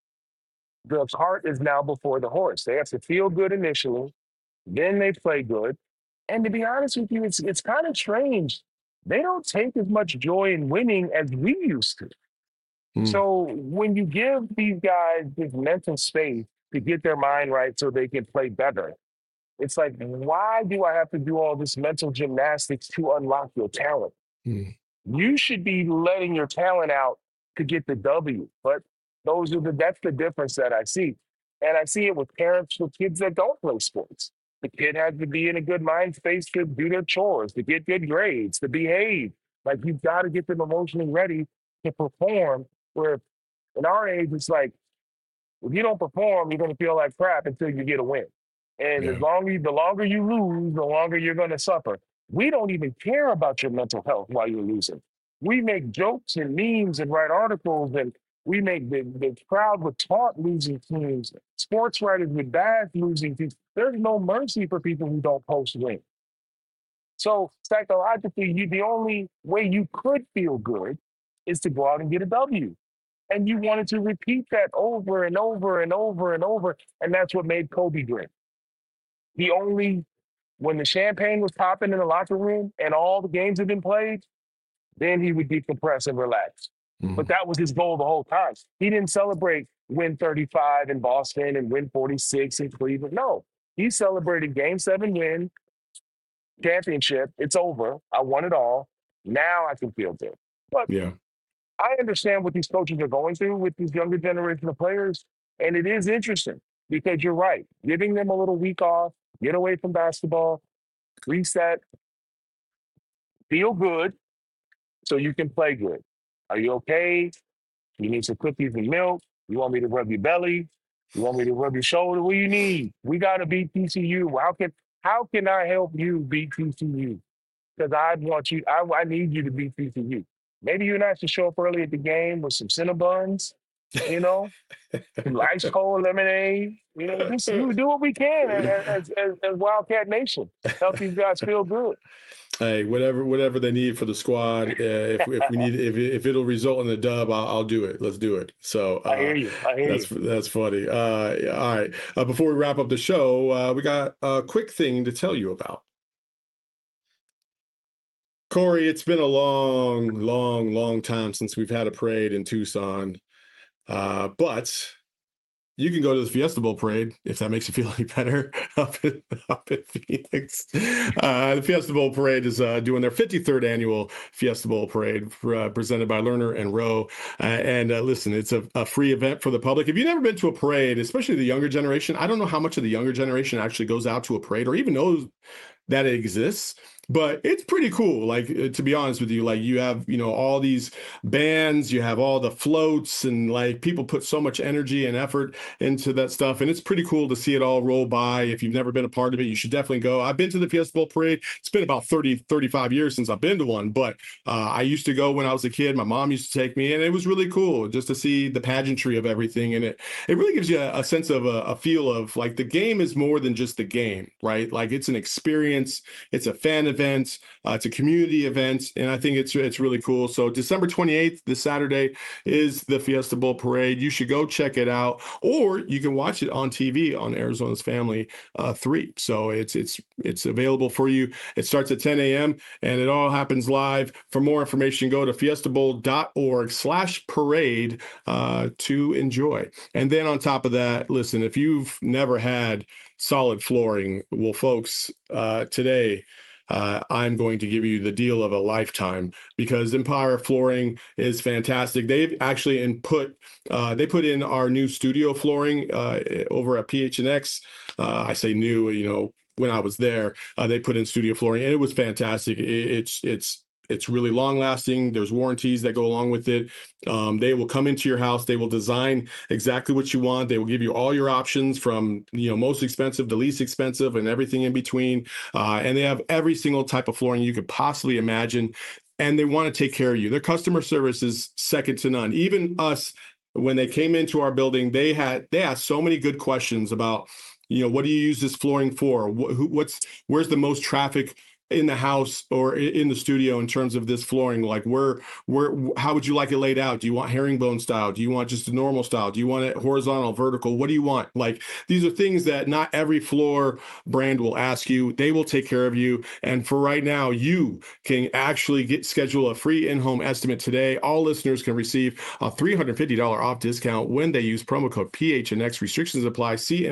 the cart is now before the horse. They have to feel good initially, then they play good. And to be honest with you, it's kind of strange. They don't take as much joy in winning as we used to. Mm. So when you give these guys this mental space to get their mind right so they can play better, it's like, why do I have to do all this mental gymnastics to unlock your talent? Mm. You should be letting your talent out to get the W. But that's the difference that I see. And I see it with parents with kids that don't play sports. The kid has to be in a good mind space to do their chores, to get good grades, to behave. Like, you've got to get them emotionally ready to perform. Where in our age, it's like, if you don't perform, you're going to feel like crap until you get a win. And Yeah. the longer you lose, the longer you're going to suffer. We don't even care about your mental health while you're losing. We make jokes and memes and write articles, and we make the crowd with taunt losing teams, sports writers with bad losing teams. There's no mercy for people who don't post win. So psychologically, the only way you could feel good is to go out and get a W. And you wanted to repeat that over and over and over and over. And that's what made Kobe great. When the champagne was popping in the locker room and all the games had been played, then he would decompress and relax. Mm. But that was his goal the whole time. He didn't celebrate win 35 in Boston and win 46 in Cleveland. No, he celebrated game 7 win, championship. It's over. I won it all. Now I can feel good. But Yeah. I understand what these coaches are going through with these younger generation of players. And it is interesting because you're right. Giving them a little week off, get away from basketball, reset, feel good so you can play good. Are you okay? You need some cookies and milk? You want me to rub your belly? You want me to rub your shoulder? What do you need? We got to beat TCU. How can I help you beat TCU? Because I need you to beat TCU. Maybe you and I should show up early at the game with some Cinnabons, some ice cold lemonade. Just do what we can as Wildcat Nation. Help these guys feel good. Hey, whatever they need for the squad. If we need, if it'll result in a dub, I'll do it. Let's do it. So I hear you. That's funny. All right. Before we wrap up the show, we got a quick thing to tell you about. Corey, it's been a long time since we've had a parade in Tucson, but you can go to the Fiesta Bowl parade if that makes you feel any better up in Phoenix. The Fiesta Bowl parade is doing their 53rd annual Fiesta Bowl parade presented by Lerner and Rowe. And listen, it's a free event for the public. If you've never been to a parade, especially the younger generation, I don't know how much of the younger generation actually goes out to a parade or even knows that it exists. But it's pretty cool. Like, to be honest with you, like, you have, all these bands, you have all the floats, and like, people put so much energy and effort into that stuff. And it's pretty cool to see it all roll by. If you've never been a part of it, you should definitely go. I've been to the Fiesta Bowl parade. It's been about 35 years since I've been to one, but I used to go when I was a kid. My mom used to take me, and it was really cool just to see the pageantry of everything. And it really gives you a sense of a feel of like the game is more than just the game, right? Like, it's an experience. It's a fan event. It's a community event, and I think it's really cool. So December 28th, this Saturday, is the Fiesta Bowl Parade. You should go check it out, or you can watch it on TV on Arizona's Family 3. So it's available for you. It starts at 10 a.m. and it all happens live. For more information, go to fiestabowl.org/parade to enjoy. And then on top of that, listen, if you've never had solid flooring, well, folks, today I'm going to give you the deal of a lifetime, because Empire Flooring is fantastic. They've actually put in our new studio flooring over at PHNX. I say new, when I was there, they put in studio flooring, and it was fantastic. It's really long lasting. There's warranties that go along with it. They will come into your house. They will design exactly what you want. They will give you all your options from, most expensive to least expensive and everything in between. And they have every single type of flooring you could possibly imagine. And they want to take care of you. Their customer service is second to none. Even us, when they came into our building, they asked so many good questions about, what do you use this flooring for? Where's the most traffic in the house or in the studio in terms of this flooring? Like how would you like it laid out? Do you want herringbone style? Do you want just a normal style? Do you want it horizontal, vertical? What do you want? Like, these are things that not every floor brand will ask you. They will take care of you. And for right now, you can actually schedule a free in-home estimate today. All listeners can receive a $350 off discount when they use promo code PHNX. Restrictions apply. See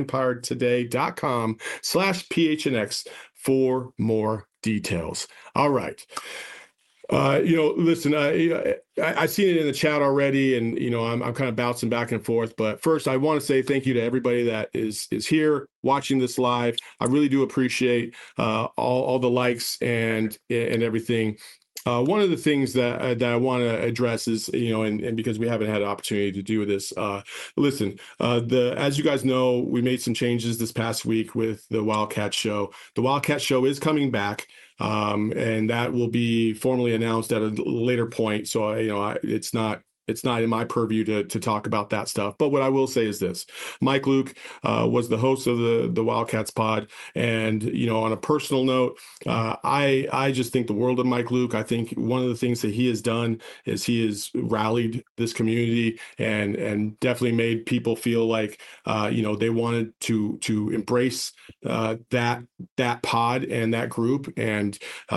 empiretoday.com/PHNX for more details. All right. Listen, I've seen it in the chat already, and, I'm kind of bouncing back and forth. But first, I want to say thank you to everybody that is here watching this live. I really do appreciate all the likes and everything. One of the things that I want to address is, and because we haven't had an opportunity to do this, listen, as you guys know, we made some changes this past week with the Wildcat Show. The Wildcat Show is coming back, and that will be formally announced at a later point. So, it's not in my purview to talk about that stuff. But what I will say is this: Mike Luke was the host of the Wildcats pod. And, on a personal note, I just think the world of Mike Luke. I think one of the things that he has done is he has rallied this community and definitely made people feel like, they wanted to embrace that pod and that group. And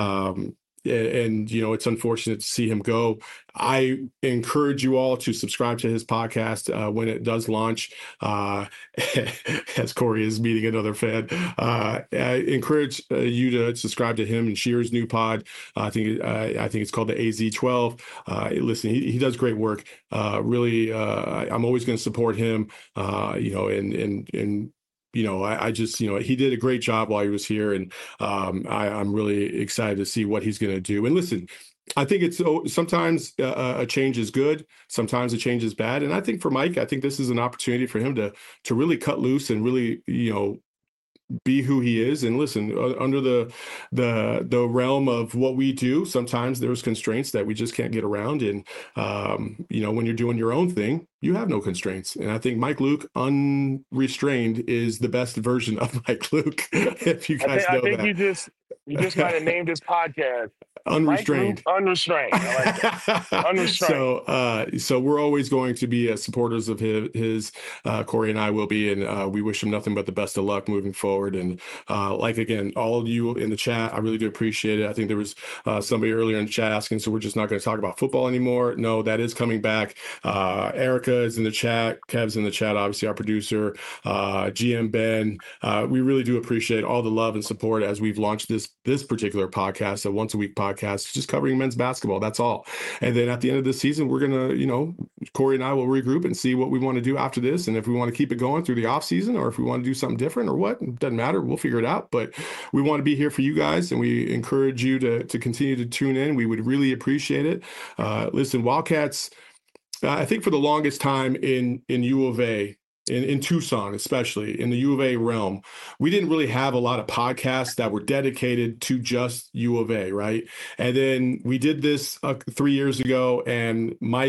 it's unfortunate to see him go. I encourage you all to subscribe to his podcast when it does launch. As Corey is meeting another fan, I encourage you to subscribe to him and Shear's new pod. I think it's called the AZ12. Listen, he does great work. Really, I'm always going to support him. I just, he did a great job while he was here, and I'm really excited to see what he's going to do. And listen, I think it's sometimes a change is good, sometimes a change is bad. And I think for Mike, I think this is an opportunity for him to really cut loose and really, be who he is. And listen, under the realm of what we do, sometimes there's constraints that we just can't get around. And, when you're doing your own thing, you have no constraints. And I think Mike Luke unrestrained is the best version of Mike Luke. If you guys know that. You just might have named this podcast Unrestrained. Unrestrained. I like that. Unrestrained. So we're always going to be supporters of his. Corey and I will be, and we wish him nothing but the best of luck moving forward. And again, all of you in the chat, I really do appreciate it. I think there was somebody earlier in the chat asking, so we're just not going to talk about football anymore? No, that is coming back. Erica is in the chat. Kev's in the chat, obviously our producer. GM Ben. We really do appreciate all the love and support as we've launched this particular podcast, a once a week podcast, just covering men's basketball. That's all. And then at the end of the season, we're going to, Corey and I will regroup and see what we want to do after this. And if we want to keep it going through the off season, or if we want to do something different or what, it doesn't matter. We'll figure it out. But we want to be here for you guys, and we encourage you to continue to tune in. We would really appreciate it. Listen, Wildcats, I think for the longest time in U of A, in Tucson, especially in the U of A realm, we didn't really have a lot of podcasts that were dedicated to just U of A, right? And then we did this 3 years ago, and Mike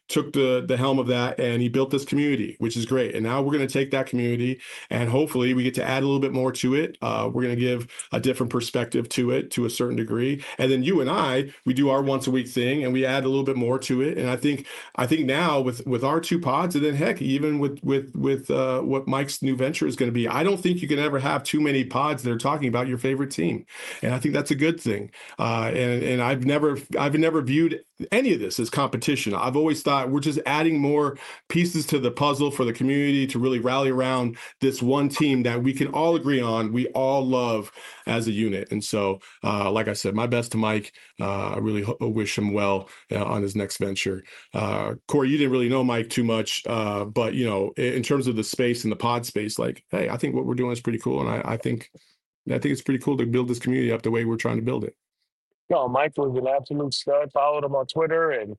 took the helm of that, and he built this community, which is great. And now we're going to take that community, and hopefully we get to add a little bit more to it. We're going to give a different perspective to it to a certain degree, and then you and I, we do our once a week thing, and we add a little bit more to it. And I think now with our two pods, and then heck, even with what Mike's new venture is going to be, I don't think you can ever have too many pods that are talking about your favorite team, and I think that's a good thing. And I've never viewed any of this as competition. I've always thought we're just adding more pieces to the puzzle for the community to really rally around this one team that we can all agree on, we all love as a unit. And so, like I said, my best to Mike. I really wish him well on his next venture. Corey, you didn't really know Mike too much, but in terms of the space and the pod space, like, hey, I think what we're doing is pretty cool, and I think it's pretty cool to build this community up the way we're trying to build it. No, Mike was an absolute stud. Followed him on Twitter, and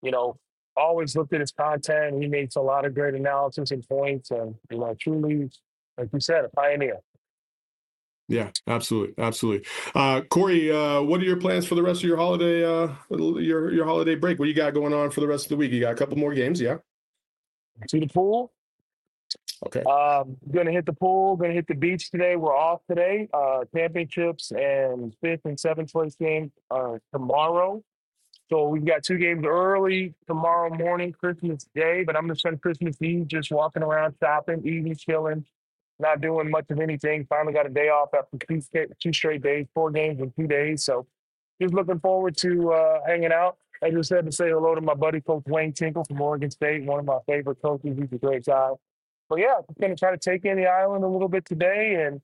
always looked at his content. He makes a lot of great analysis and points, and truly, like you said, a pioneer. Yeah, absolutely. Corey, what are your plans for the rest of your holiday your holiday break? What you got going on for the rest of the week? You got a couple more games, yeah? To the pool. Okay. Gonna hit the pool, gonna hit the beach today. We're off today. Championships and 5th and 7th place games tomorrow. So we've got 2 games early tomorrow morning, Christmas Day, but I'm gonna spend Christmas Eve just walking around, shopping, eating, chilling, not doing much of anything. Finally got a day off after 2 straight days, 4 games in 2 days. So just looking forward to hanging out. I just had to say hello to my buddy, Coach Wayne Tinkle from Oregon State, one of my favorite coaches. He's a great guy. But yeah, I'm going to try to take in the island a little bit today and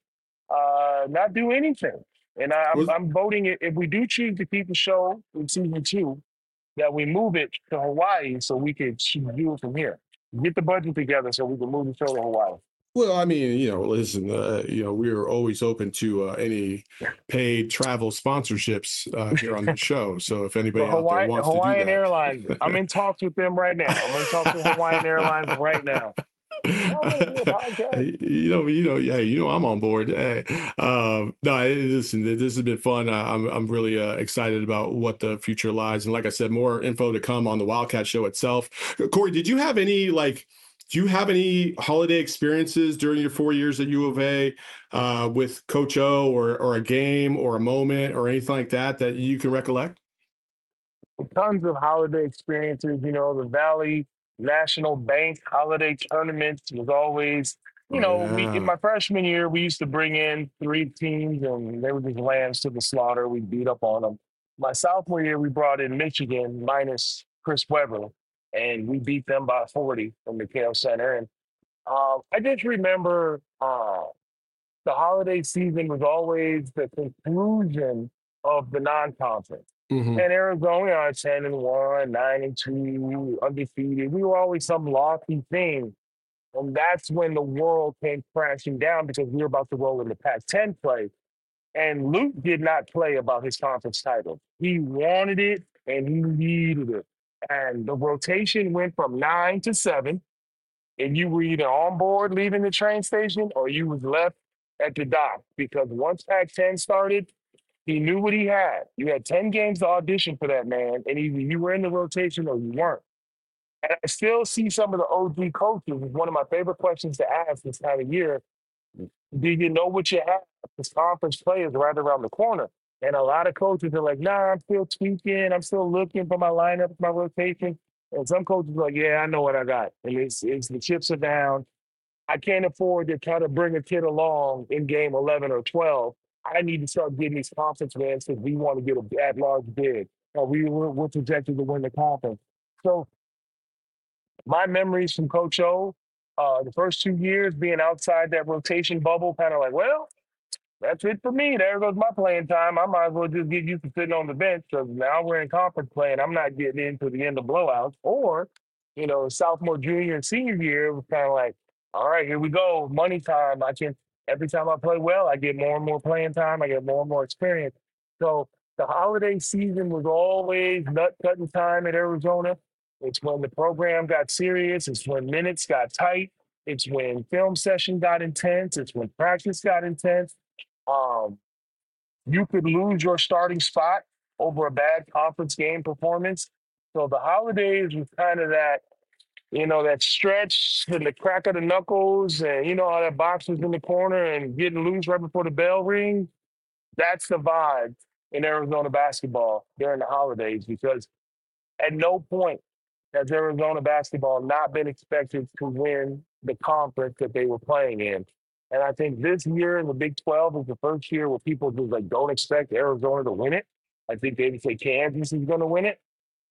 not do anything. And I'm voting it, if we do choose to keep the show in season 2, that we move it to Hawaii so we could do it from here. Get the budget together so we can move the show to Hawaii. Well, I mean, listen, we're always open to any paid travel sponsorships here on the show. So if anybody out there wants Hawaiian to do that. Airlines, I'm in talks with them right now. I'm in talks with Hawaiian Airlines right now. I'm on board. No, listen, this has been fun. I'm really excited about what the future lies, and like I said, more info to come on the Wildcat Show itself. Corey, do you have any holiday experiences during your 4 years at U of A with Coach O, or a game or a moment or anything like that you can recollect? Tons of holiday experiences. The Valley National Bank holiday tournament was always, in my freshman year, we used to bring in 3 teams and they were just lambs to the slaughter. We beat up on them. My sophomore year, we brought in Michigan minus Chris Webber, and we beat them by 40 from the McHale Center. And I just remember the holiday season was always the conclusion of the non-conference. Mm-hmm. And Arizona are 10-1, 9-2, undefeated. We were always some lofty thing. And that's when the world came crashing down because we were about to roll into Pac-10 play. And Luke did not play about his conference title. He wanted it and he needed it. And the rotation went from 9 to 7. And you were either on board leaving the train station or you was left at the dock. Because once Pac-10 started, he knew what he had. You had 10 games to audition for that man, and either you were in the rotation or you weren't. And I still see some of the OG coaches. It's one of my favorite questions to ask this time of year. Do you know what you have? This conference play is right around the corner. And a lot of coaches are like, nah, I'm still tweaking. I'm still looking for my lineup, my rotation. And some coaches are like, yeah, I know what I got. And it's the chips are down. I can't afford to try to bring a kid along in game 11 or 12. I need to start getting these conference wins because we want to get a at-large bid. Or we're projected to win the conference. So my memories from Coach O, the first 2 years being outside that rotation bubble, kind of like, well, that's it for me. There goes my playing time. I might as well just get used to sitting on the bench because now we're in conference play and I'm not getting into the end of blowouts. Or, sophomore, junior, and senior year, it was kind of like, all right, here we go, money time. Every time I play well, I get more and more playing time. I get more and more experience. So the holiday season was always nut-cutting time at Arizona. It's when the program got serious. It's when minutes got tight. It's when film session got intense. It's when practice got intense. You could lose your starting spot over a bad conference game performance. So the holidays was kind of that, that stretch and the crack of the knuckles, and how that box was in the corner and getting loose right before the bell rings. That's the vibe in Arizona basketball during the holidays, because at no point has Arizona basketball not been expected to win the conference that they were playing in. And I think this year in the Big 12 is the first year where people just like don't expect Arizona to win it. I think they would say Kansas is going to win it.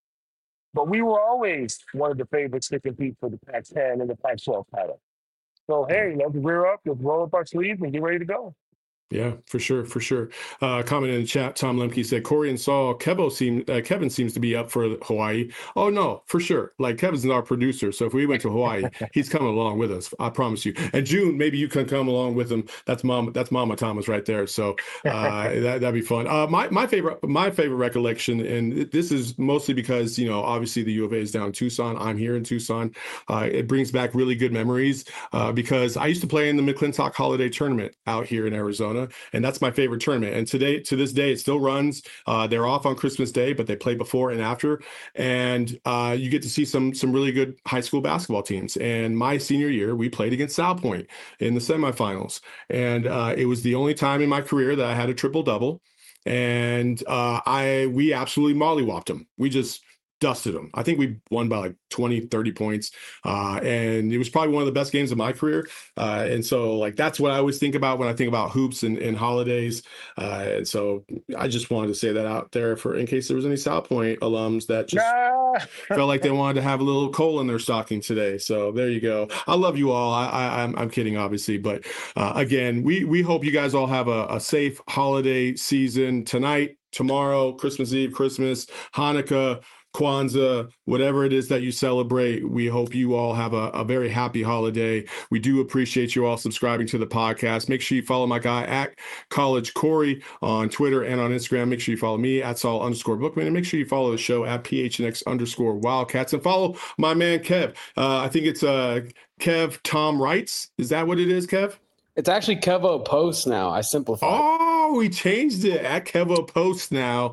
But we were always one of the favorites to compete for the Pac-10 and the Pac-12 title. So, hey, let's rear up, let's roll up our sleeves and get ready to go. Yeah, for sure, for sure. Comment in the chat, Tom Lemke said, Corey and Saul, Kevin seems to be up for Hawaii. Oh, no, for sure. Like, Kevin's our producer, so if we went to Hawaii, he's coming along with us, I promise you. And June, maybe you can come along with him. That's Mama Thomas right there, so that'd be fun. My favorite recollection, and this is mostly because, obviously the U of A is down in Tucson. I'm here in Tucson. It brings back really good memories because I used to play in the McClintock Holiday Tournament out here in Arizona. And that's my favorite tournament. And to this day, it still runs. They're off on Christmas Day, but they play before and after. And you get to see some really good high school basketball teams. And my senior year, we played against Salpointe in the semifinals. And it was the only time in my career that I had a triple-double. And we absolutely mollywopped them. We just dusted them. I think we won by like 20, 30 points. And it was probably one of the best games of my career. And so like, that's what I always think about when I think about hoops and holidays. And so I just wanted to say that out there in case there was any South Point alums that just felt like they wanted to have a little coal in their stocking today. So there you go. I love you all. I'm kidding, obviously. But again, we hope you guys all have a safe holiday season tonight, tomorrow, Christmas Eve, Christmas, Hanukkah, Kwanzaa, whatever it is that you celebrate. We hope you all have a very happy holiday. We do appreciate you all subscribing to the podcast. Make sure you follow my guy at College Corey on Twitter and on Instagram. Make sure you follow me at Saul_Bookman, and make sure you follow the show at PHNX_Wildcats, and follow my man Kev. I think it's Kev Tom Wrights. Is that what it is, Kev? It's actually Kevo Post now. I simplified. Oh, we changed it at Kevo Post now.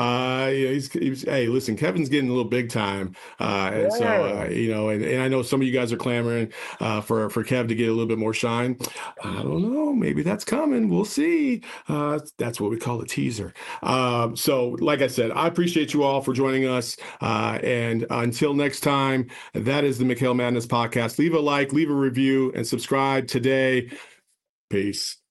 Hey, listen, Kevin's getting a little big time. And so, and I know some of you guys are clamoring for Kev to get a little bit more shine. I don't know. Maybe that's coming. We'll see. That's what we call a teaser. So like I said, I appreciate you all for joining us. And until next time, that is the McHale Madness podcast. Leave a like, leave a review, and subscribe today. Peace.